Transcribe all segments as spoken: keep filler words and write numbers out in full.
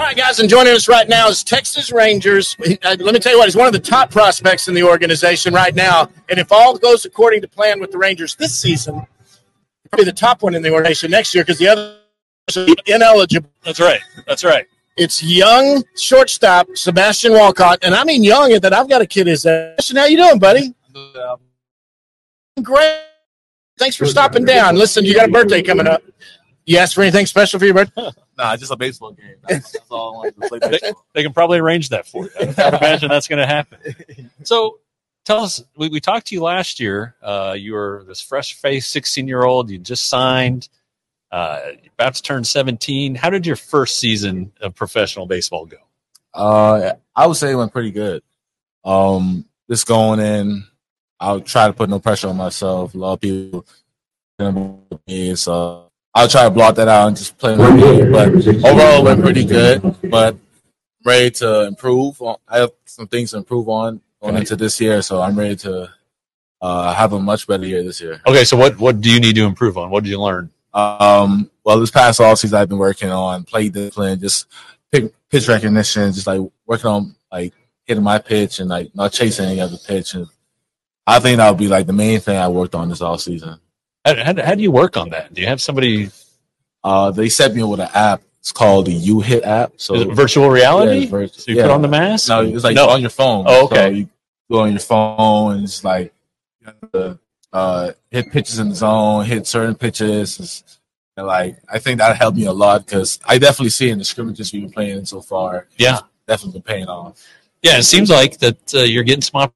right, guys, and joining us right now is Texas Rangers. Uh, let me tell you what, he's one of the top prospects in the organization right now. And if all goes according to plan with the Rangers this season, he'll be the top one in the organization next year because the other is ineligible. That's right. That's right. It's young shortstop Sebastian Walcott. And I mean young in that I've got a kid his age. How you doing, buddy? Great. Thanks for stopping down. Listen, you got a birthday coming up. You asked for anything special for your birthday? Nah, just a baseball game. That's, that's all I wanted to play baseball. They, they can probably arrange that for you. I can't imagine that's going to happen. So tell us, we, we talked to you last year. Uh, you were this fresh-faced sixteen-year-old. You just signed. Uh, you're about to turn seventeen. How did your first season of professional baseball go? Uh, I would say it went pretty good. Um, just going in, I'll try to put no pressure on myself. A lot of people me, so I'll try to block that out and just play my game. But overall, it went pretty good. But ready to improve. I have some things to improve on going into this year, so I'm ready to uh, have a much better year this year. Okay, so what, what do you need to improve on? What did you learn? Um, well, this past offseason, I've been working on play discipline, just pick, pitch recognition, just like working on like hitting my pitch and like not chasing any other pitch. And I think that would be like the main thing I worked on this offseason. How, how, how do you work on that? Do you have somebody? Uh, they set me up with an app. It's called the U Hit app. So is it virtual reality? Yeah, virtual, so you yeah. put on the mask? No, it's like no. on your phone. Oh, okay. So you go on your phone and it's like you have to uh, hit pitches in the zone, hit certain pitches. It's, and like I think that helped me a lot because I definitely see in the scrimmages we've been playing in so far. Yeah, it's definitely been paying off. Yeah, it seems like that uh, you're getting some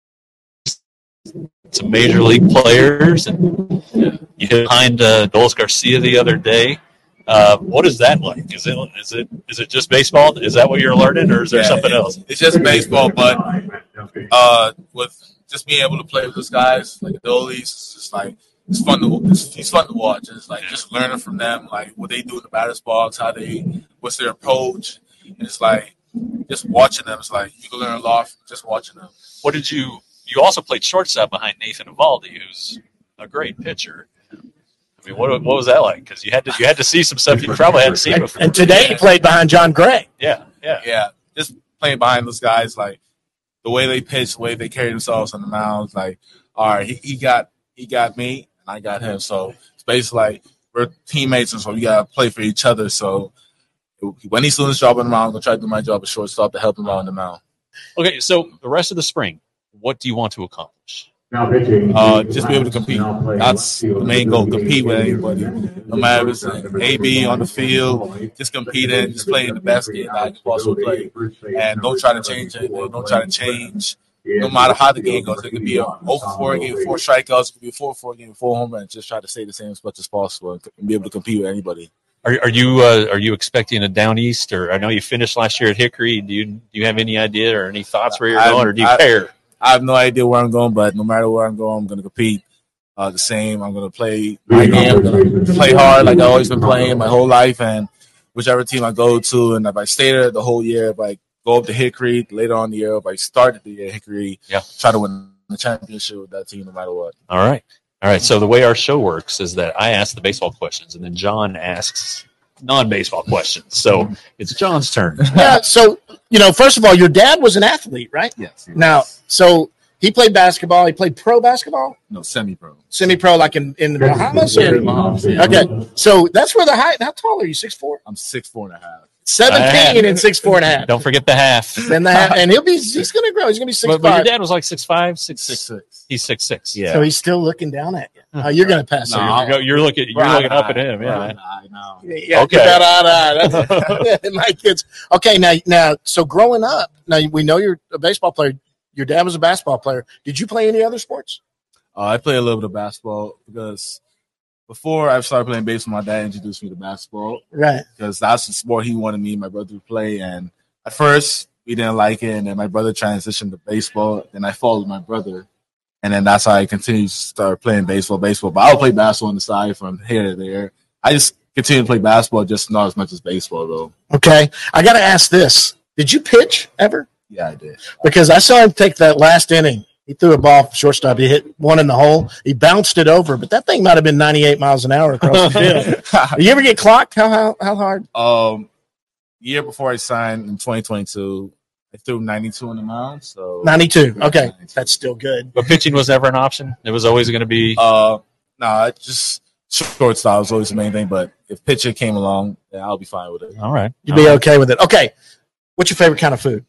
some major league players, and yeah. you hit behind uh, Dolis Garcia the other day. Uh, what is that like? Is it is it is it just baseball? Is that what you're learning, or is there yeah, something it, else? It's just baseball, but uh, with just being able to play with those guys like Dolis, it's just like. It's fun to it's, it's fun to watch. It's like just learning from them, like what they do in the batter's box, how they, what's their approach, and it's like just watching them. It's like you can learn a lot from just watching them. What did you? You also played shortstop behind Nathan Eovaldi, who's a great pitcher. I mean, what what was that like? Because you had to you had to see some stuff you probably hadn't seen before. And today he played behind John Gray. Yeah, yeah, yeah. Just playing behind those guys, like the way they pitch, the way they carry themselves on the mound. Like, all right, he, he got he got me. I got him, so it's basically like we're teammates, and so we gotta play for each other. So when he's doing his job on the mound, I'm gonna try to do my job as shortstop to help him out on the mound. Okay, so the rest of the spring, what do you want to accomplish? Uh, just be able to compete. That's the main goal. Compete with anybody, no matter if it's an A B on the field. Just compete and just play the best game that I can possibly play, and don't try to change it. Don't try to change. No matter how the game goes, it could be a oh for four game with four strikeouts, it could be a four for four game with four home runs. Just try to stay the same as much as possible and be able to compete with anybody. Are are you uh, are you expecting a down east? Or I know you finished last year at Hickory. Do you do you have any idea or any thoughts where you're I, going, or do you I, care? I have no idea where I'm going, but no matter where I'm going, I'm going to compete uh, the same. I'm going to play my game. I'm going to play hard like I've always been playing my whole life, and whichever team I go to, and if I stay there the whole year, if I go up to Hickory later on in the year, if I started the year at Hickory, yeah. try to win the championship with that team no matter what. All right. All right. So the way our show works is that I ask the baseball questions, and then John asks non-baseball questions. So it's John's turn. Yeah. So, you know, first of all, your dad was an athlete, right? Yes. yes. Now, so he played basketball. He played pro basketball? No, semi-pro. Semi-pro, like in, in the Bahamas? Yeah, the Bahamas, yeah. Okay. So that's where the height, how tall are you? six foot four? I'm six foot four and a half. seventeen and six four and a half. Don't forget the half. Then the half, and he'll be he's going to grow. He's going to be six but, five. But your dad was like six five, six six six. He's six six. Yeah. So he's still looking down at you. Oh, you're going to pass. No, you're, you're looking. You're right, looking up right, at him. Yeah. Right, I know. Yeah. Okay. That, uh, that's, my kids. Okay. Now, now, so growing up, now we know you're a baseball player. Your dad was a basketball player. Did you play any other sports? Uh, I play a little bit of basketball because before I started playing baseball, my dad introduced me to basketball. Right. Because that's the sport he wanted me and my brother to play. And at first, we didn't like it. And then my brother transitioned to baseball. Then I followed my brother. And then that's how I continued to start playing baseball, baseball. But I'll play basketball on the side from here to there. I just continue to play basketball, just not as much as baseball, though. Okay. I got to ask this. Did you pitch ever? Yeah, I did. Because I saw him take that last inning. He threw a ball shortstop. He hit one in the hole. He bounced it over, but that thing might have been ninety-eight miles an hour across the field. Did you ever get clocked? How how how hard? Um, year before I signed in twenty twenty-two, I threw ninety-two on the mound. So ninety-two. Okay, ninety-two. That's still good. But pitching was never an option. It was always going to be. Uh, no, nah, just shortstop was always the main thing. But if pitcher came along, then I'll be fine with it. All right, you'd All be right. okay with it. Okay, what's your favorite kind of food?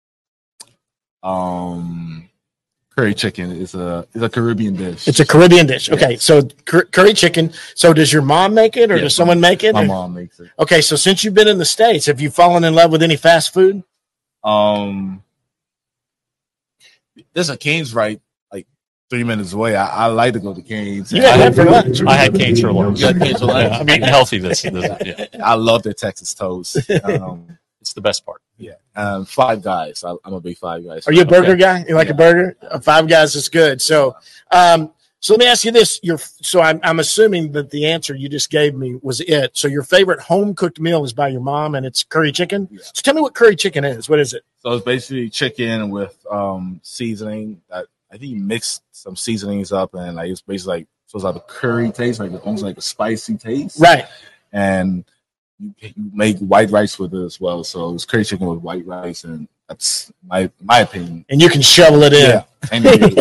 Um, curry chicken is a is a Caribbean dish. It's a Caribbean dish. Okay, yes. So cur- curry chicken. So does your mom make it, or yes, does someone make it? My or? mom makes it. Okay, so since you've been in the States, have you fallen in love with any fast food? Um, there's a Cane's right like three minutes away. I, I like to go to Cane's. You had that for lunch. I had Cane's for lunch. You had Cane's for lunch. Yeah, I'm eating healthy this. this yeah. I love their Texas toast. Um, it's the best part. Yeah. Um, Five Guys. I, I'm a big Five Guys. Are you a burger okay. guy? You like yeah. a burger? Uh, Five Guys is good. So, um, so let me ask you this: Your so I'm I'm assuming that the answer you just gave me was it. So your favorite home cooked meal is by your mom, and it's curry chicken. Yeah. So tell me what curry chicken is. What is it? So it's basically chicken with um, seasoning. That I think you mix some seasonings up, and like it's basically like so it's like a curry taste, like almost like a spicy taste, right? And you, you make white rice with it as well. So it's curry chicken with white rice, and that's my my opinion. And you can shovel it in. Yeah. And,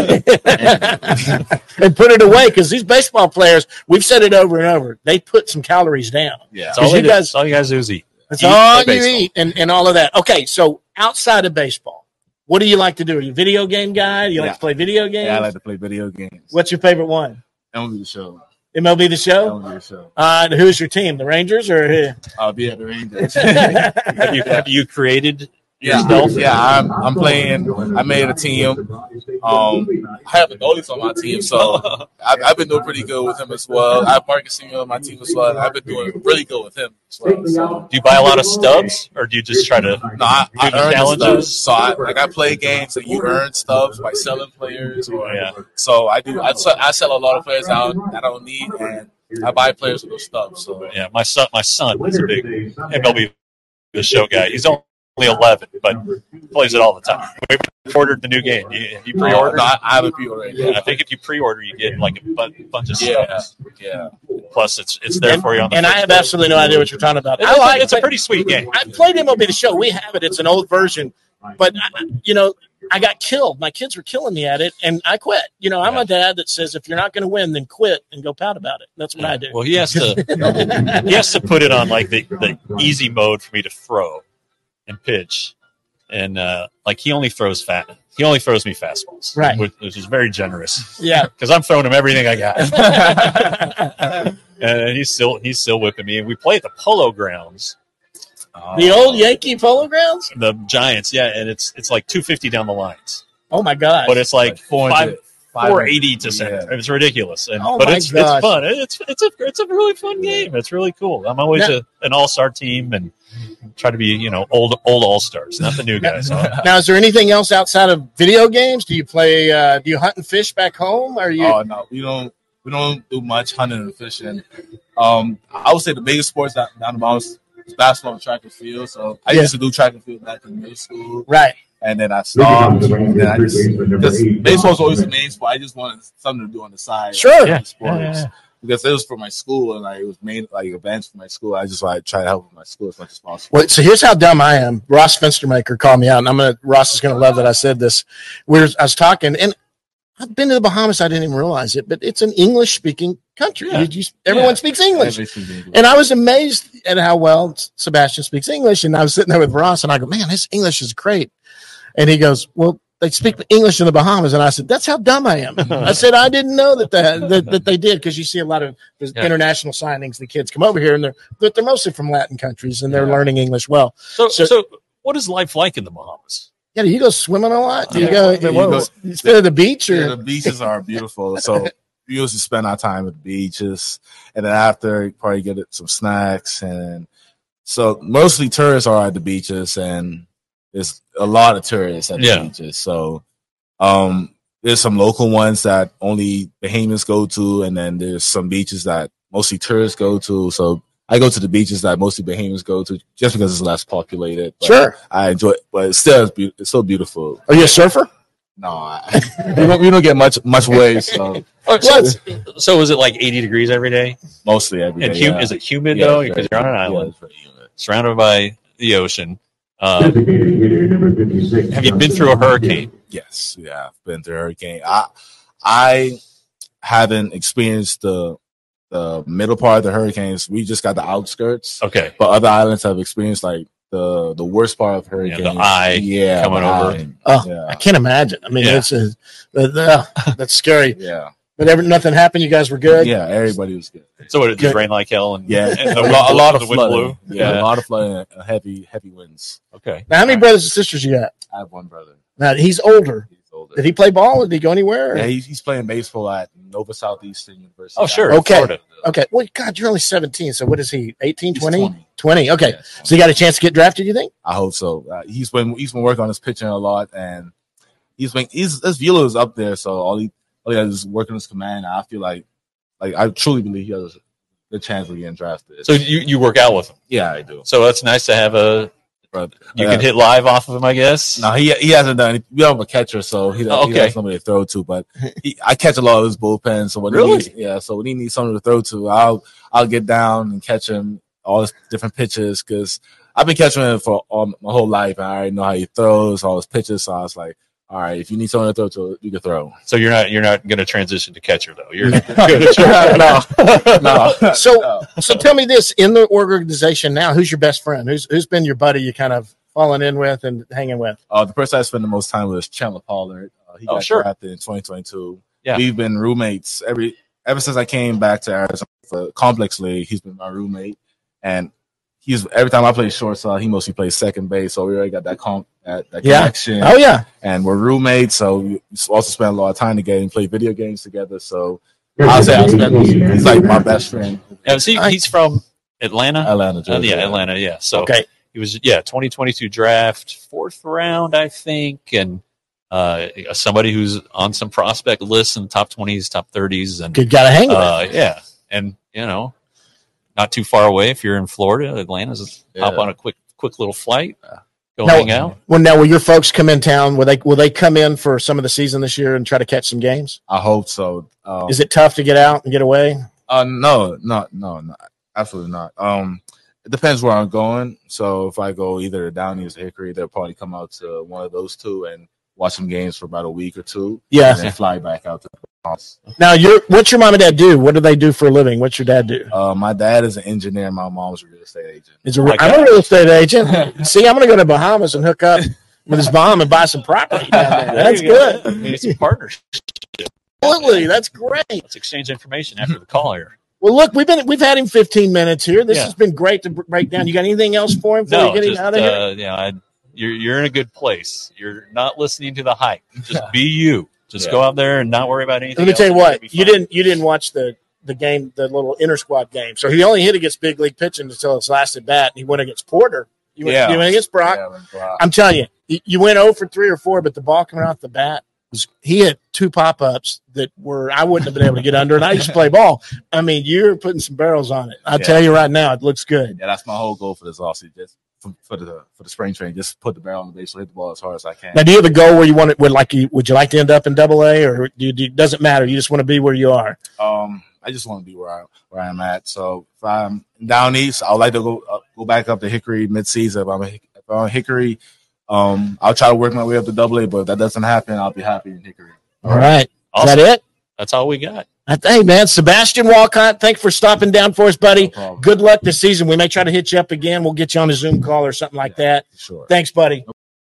and put it away, because these baseball players, we've said it over and over, they put some calories down. Yeah. That's all, you guys, guys, all you guys do is eat. That's eat all you eat and, and all of that. Okay, so outside of baseball, what do you like to do? Are you a video game guy? Do you yeah. like to play video games? Yeah, I like to play video games. What's your favorite one? M L B The Show. M L B The Show? M L B The Show. Uh, who's your team? The Rangers or who? I'll be at the Rangers. have, you, have you created yeah, yourself? Yeah, I'm I'm playing. I made a team. Um, I have a goalie on my team, so I've, I've been doing pretty good with him as well. I have Marcus Semien on my team as well. I've been doing really good with him as well. So. Do you buy a lot of stubs, or do you just try to no, I, do I the earn challenges? So I, like I play games and you earn stuff by selling players. Or, yeah. So I do. I, I sell a lot of players out that I don't need, and I buy players with those stuff. So yeah, my son, my son is a big M L B The Show guy. He's only eleven, but plays it all the time. We ordered the new game. You, you pre-ordered? No, I, I haven't pre-ordered. Yeah, I think if you pre-order, you get like a bunch of yeah, stuff. Yeah. Plus, it's it's there and, for you on the. And I have day. absolutely no idea what you're talking about. It's, I like, it's a pretty sweet game. I played M L B The Show. We have it. It's an old version, but I, you know, I got killed. My kids were killing me at it, and I quit. You know, I'm yeah. a dad that says if you're not going to win, then quit and go pout about it. That's what yeah. I do. Well, he has to. he has to put it on like the, the easy mode for me to throw and pitch. And uh, like he only throws fat, he only throws me fastballs, right? Which, which is very generous. Yeah, because I'm throwing him everything I got, and he's still he's still whipping me. And we play at the Polo Grounds, the uh, old Yankee Polo Grounds, the Giants. Yeah, and it's it's like two fifty down the lines. Oh my god! But it's like, like four five. four eighty to center. Yeah. It's ridiculous. And, oh but my it's gosh. it's fun. It's it's a it's a really fun game. It's really cool. I'm always now, a, an all-star team and try to be, you know, old old all-stars, not the new guys. Now, is there anything else outside of video games? Do you play uh, do you hunt and fish back home? Are you Oh no, we don't we don't do much hunting and fishing. Um I would say the biggest sports down, down the mountain is basketball and track and field. So I yeah. used to do track and field back in middle school. Right. And then I stopped. And then I just because baseball's always the main sport. I just wanted something to do on the side. Sure. Yeah. Sports. Yeah, yeah. Because it was for my school and like it was main like events for my school. I just like try to help with my school as much as possible. Well, so here's how dumb I am. Ross Fenstermaker called me out, and I'm gonna Ross is gonna love that I said this. We were, I was talking, and I've been to the Bahamas. I didn't even realize it, but it's an English speaking country. Yeah. You, everyone yeah. speaks English. English. And I was amazed at how well Sebastian speaks English. And I was sitting there with Ross, and I go, "Man, his English is great." And he goes, "Well, they speak English in the Bahamas." And I said, "That's how dumb I am." I said, "I didn't know that that, that, that they did," because you see a lot of the yeah. international signings. The kids come over here, and they're but they're mostly from Latin countries, and they're yeah. learning English well. So, so, so, what is life like in the Bahamas? Yeah, do you go swimming a lot? Do you yeah. go? You, well, go you spend at the beach, or yeah, the beaches are beautiful. So we usually spend our time at the beaches, and then after probably get some snacks, and so mostly tourists are at the beaches, and there's a lot of tourists at the yeah. beaches. So um, there's some local ones that only Bahamians go to, and then there's some beaches that mostly tourists go to. So I go to the beaches that mostly Bahamians go to just because it's less populated. But sure. I enjoy it, but it's still, it's still beautiful. Are you a surfer? No, I, we, don't, we don't get much much waves. So. Oh, so, so is it like eighty degrees every day? Mostly every day. And hum- yeah. is it humid yeah, though? Because you're on an island. Yeah, it's very humid. Surrounded by the ocean. Um, have you been through a hurricane? Yes, yeah, I've been through a hurricane. I I haven't experienced the the middle part of the hurricanes. We just got the outskirts. Okay, but other islands have experienced like the the worst part of hurricanes. Yeah, the eye yeah, coming over. Eye. Oh, yeah. I can't imagine. I mean, Yeah. it's a, uh, that's scary. Yeah, But ever, nothing happened. You guys were good. yeah, everybody was good. So it just Good. rained like hell, and Yeah, and a, the lot, a wind lot blew- of the wind flooding. blew. Yeah, a lot of flooding, and heavy heavy winds. Okay. Now, how many brothers and sisters you got? I have one brother. Now he's older. He's older. Did he play ball? Did he go anywhere? Yeah, he's, he's playing baseball at Nova Southeastern University. Oh, sure. Okay. Florida. Okay. Well, God, you're only seventeen. So what is he? eighteen, He's twenty? twenty. twenty. Okay. Yeah, So you got a chance to get drafted, you think? I hope so. Uh, he's been he's been working on his pitching a lot, and he's been he's his velo is up there. So all he all he has is working his command. I feel like like I truly believe he has the chance of getting drafted. So you, you work out with him. yeah, I do. So that's nice to have a. But You uh, can hit live off of him, I guess. No, he he hasn't done. We don't have a catcher, so he, Oh, he okay. has somebody to throw to. But he, I catch a lot of his bullpen. So when he Really? needs, yeah, so when he needs someone to throw to, I'll I'll get down and catch him all his different pitches because I've been catching him for all, my whole life. And I already know how he throws, all his pitches. So I was like, all right, if you need someone to throw to, you can throw. So you're not you're not going to transition to catcher though. You're no, no. So, so tell me this: in the organization now, who's your best friend? Who's who's been your buddy? You kind of falling in with and hanging with? Uh, the person I spent the most time with is Chandler Pollard. Uh, he Oh, got sure. drafted in twenty twenty-two. Yeah. We've been roommates every ever since I came back to Arizona for Complex League. He's been my roommate, and he's every time I play shortstop, he mostly plays second base. So we already got that comp, that, that Yeah. connection. Oh yeah. And we're roommates, so we also spend a lot of time together and play video games together. So I'll say I spent he's like my best friend. Yeah, see, he's from Atlanta. Atlanta, Uh, Georgia. yeah, Atlanta. Yeah. So Okay. he was yeah twenty twenty-two draft, fourth round, I think, and uh, somebody who's on some prospect lists in top twenties, top thirties, and Good guy to hang with. uh, yeah, and you know, not too far away if you're in Florida. Atlanta's hop Yeah. on a quick quick little flight, go No. hang out. Well, now will your folks come in town? Will they will they come in for some of the season this year and try to catch some games? I hope so. Um, Is it tough to get out and get away? Uh, no, no, no, no, absolutely not. Um, it depends where I'm going. So if I go either to Downey's or Hickory, they'll probably come out to one of those two and watch some games for about a week or two. Yeah. And then fly back out to the house. Now, your what's your mom and dad do? What do they do for a living? What's your dad do? Uh, my dad is an engineer. My mom's a real estate agent. Is a, my I'm a real estate agent. See, I'm going to go to Bahamas and hook up with his mom and buy some property down there. There That's you go. good. We need some partners. Absolutely, that's great. Let's exchange information after the call here. Well, look, we've been we've had him fifteen minutes here. This Yeah. has been great to break down. You got anything else for him before No, you get him just, out of here? uh, yeah, I, you're you're in a good place. You're not listening to the hype. Just be you. Just Yeah. go out there and not worry about anything. Let me tell you else. You're what, gonna be you fine. didn't you didn't watch the the game, the little inter squad game. So he only hit against big league pitching until his last at bat. He went against Porter. You went, Yeah. you went against Brock. Yeah, when Brock- I'm telling you, you- you went zero for three or four, but the ball coming off the bat was he hit two pop ups that were I wouldn't have been able to get under. And I used to play ball. I mean, you're putting some barrels on it. I'll Yeah. tell you right now, it looks good. yeah, that's my whole goal for this offseason. Just for, for the for the spring training, just put the barrel on the base, so hit the ball as hard as I can. Now, do you have a goal where you want it? Would like you? Would you like to end up in Double A, or do you, do you, doesn't matter? You just want to be where you are. Um, I just want to be where I where I'm at. So if I'm down east, I'd like to go uh, go back up to Hickory midseason. If I'm a, if I'm on Hickory, um, I'll try to work my way up to Double A. But if that doesn't happen, I'll be happy in Hickory. All right, Awesome. is that it? That's all we got. I- Hey, man, Sebastian Walcott, thanks for stopping down for us, buddy. No problem. Good luck this season. We may try to hit you up again. We'll get you on a Zoom call or something like that. Sure. Thanks, buddy.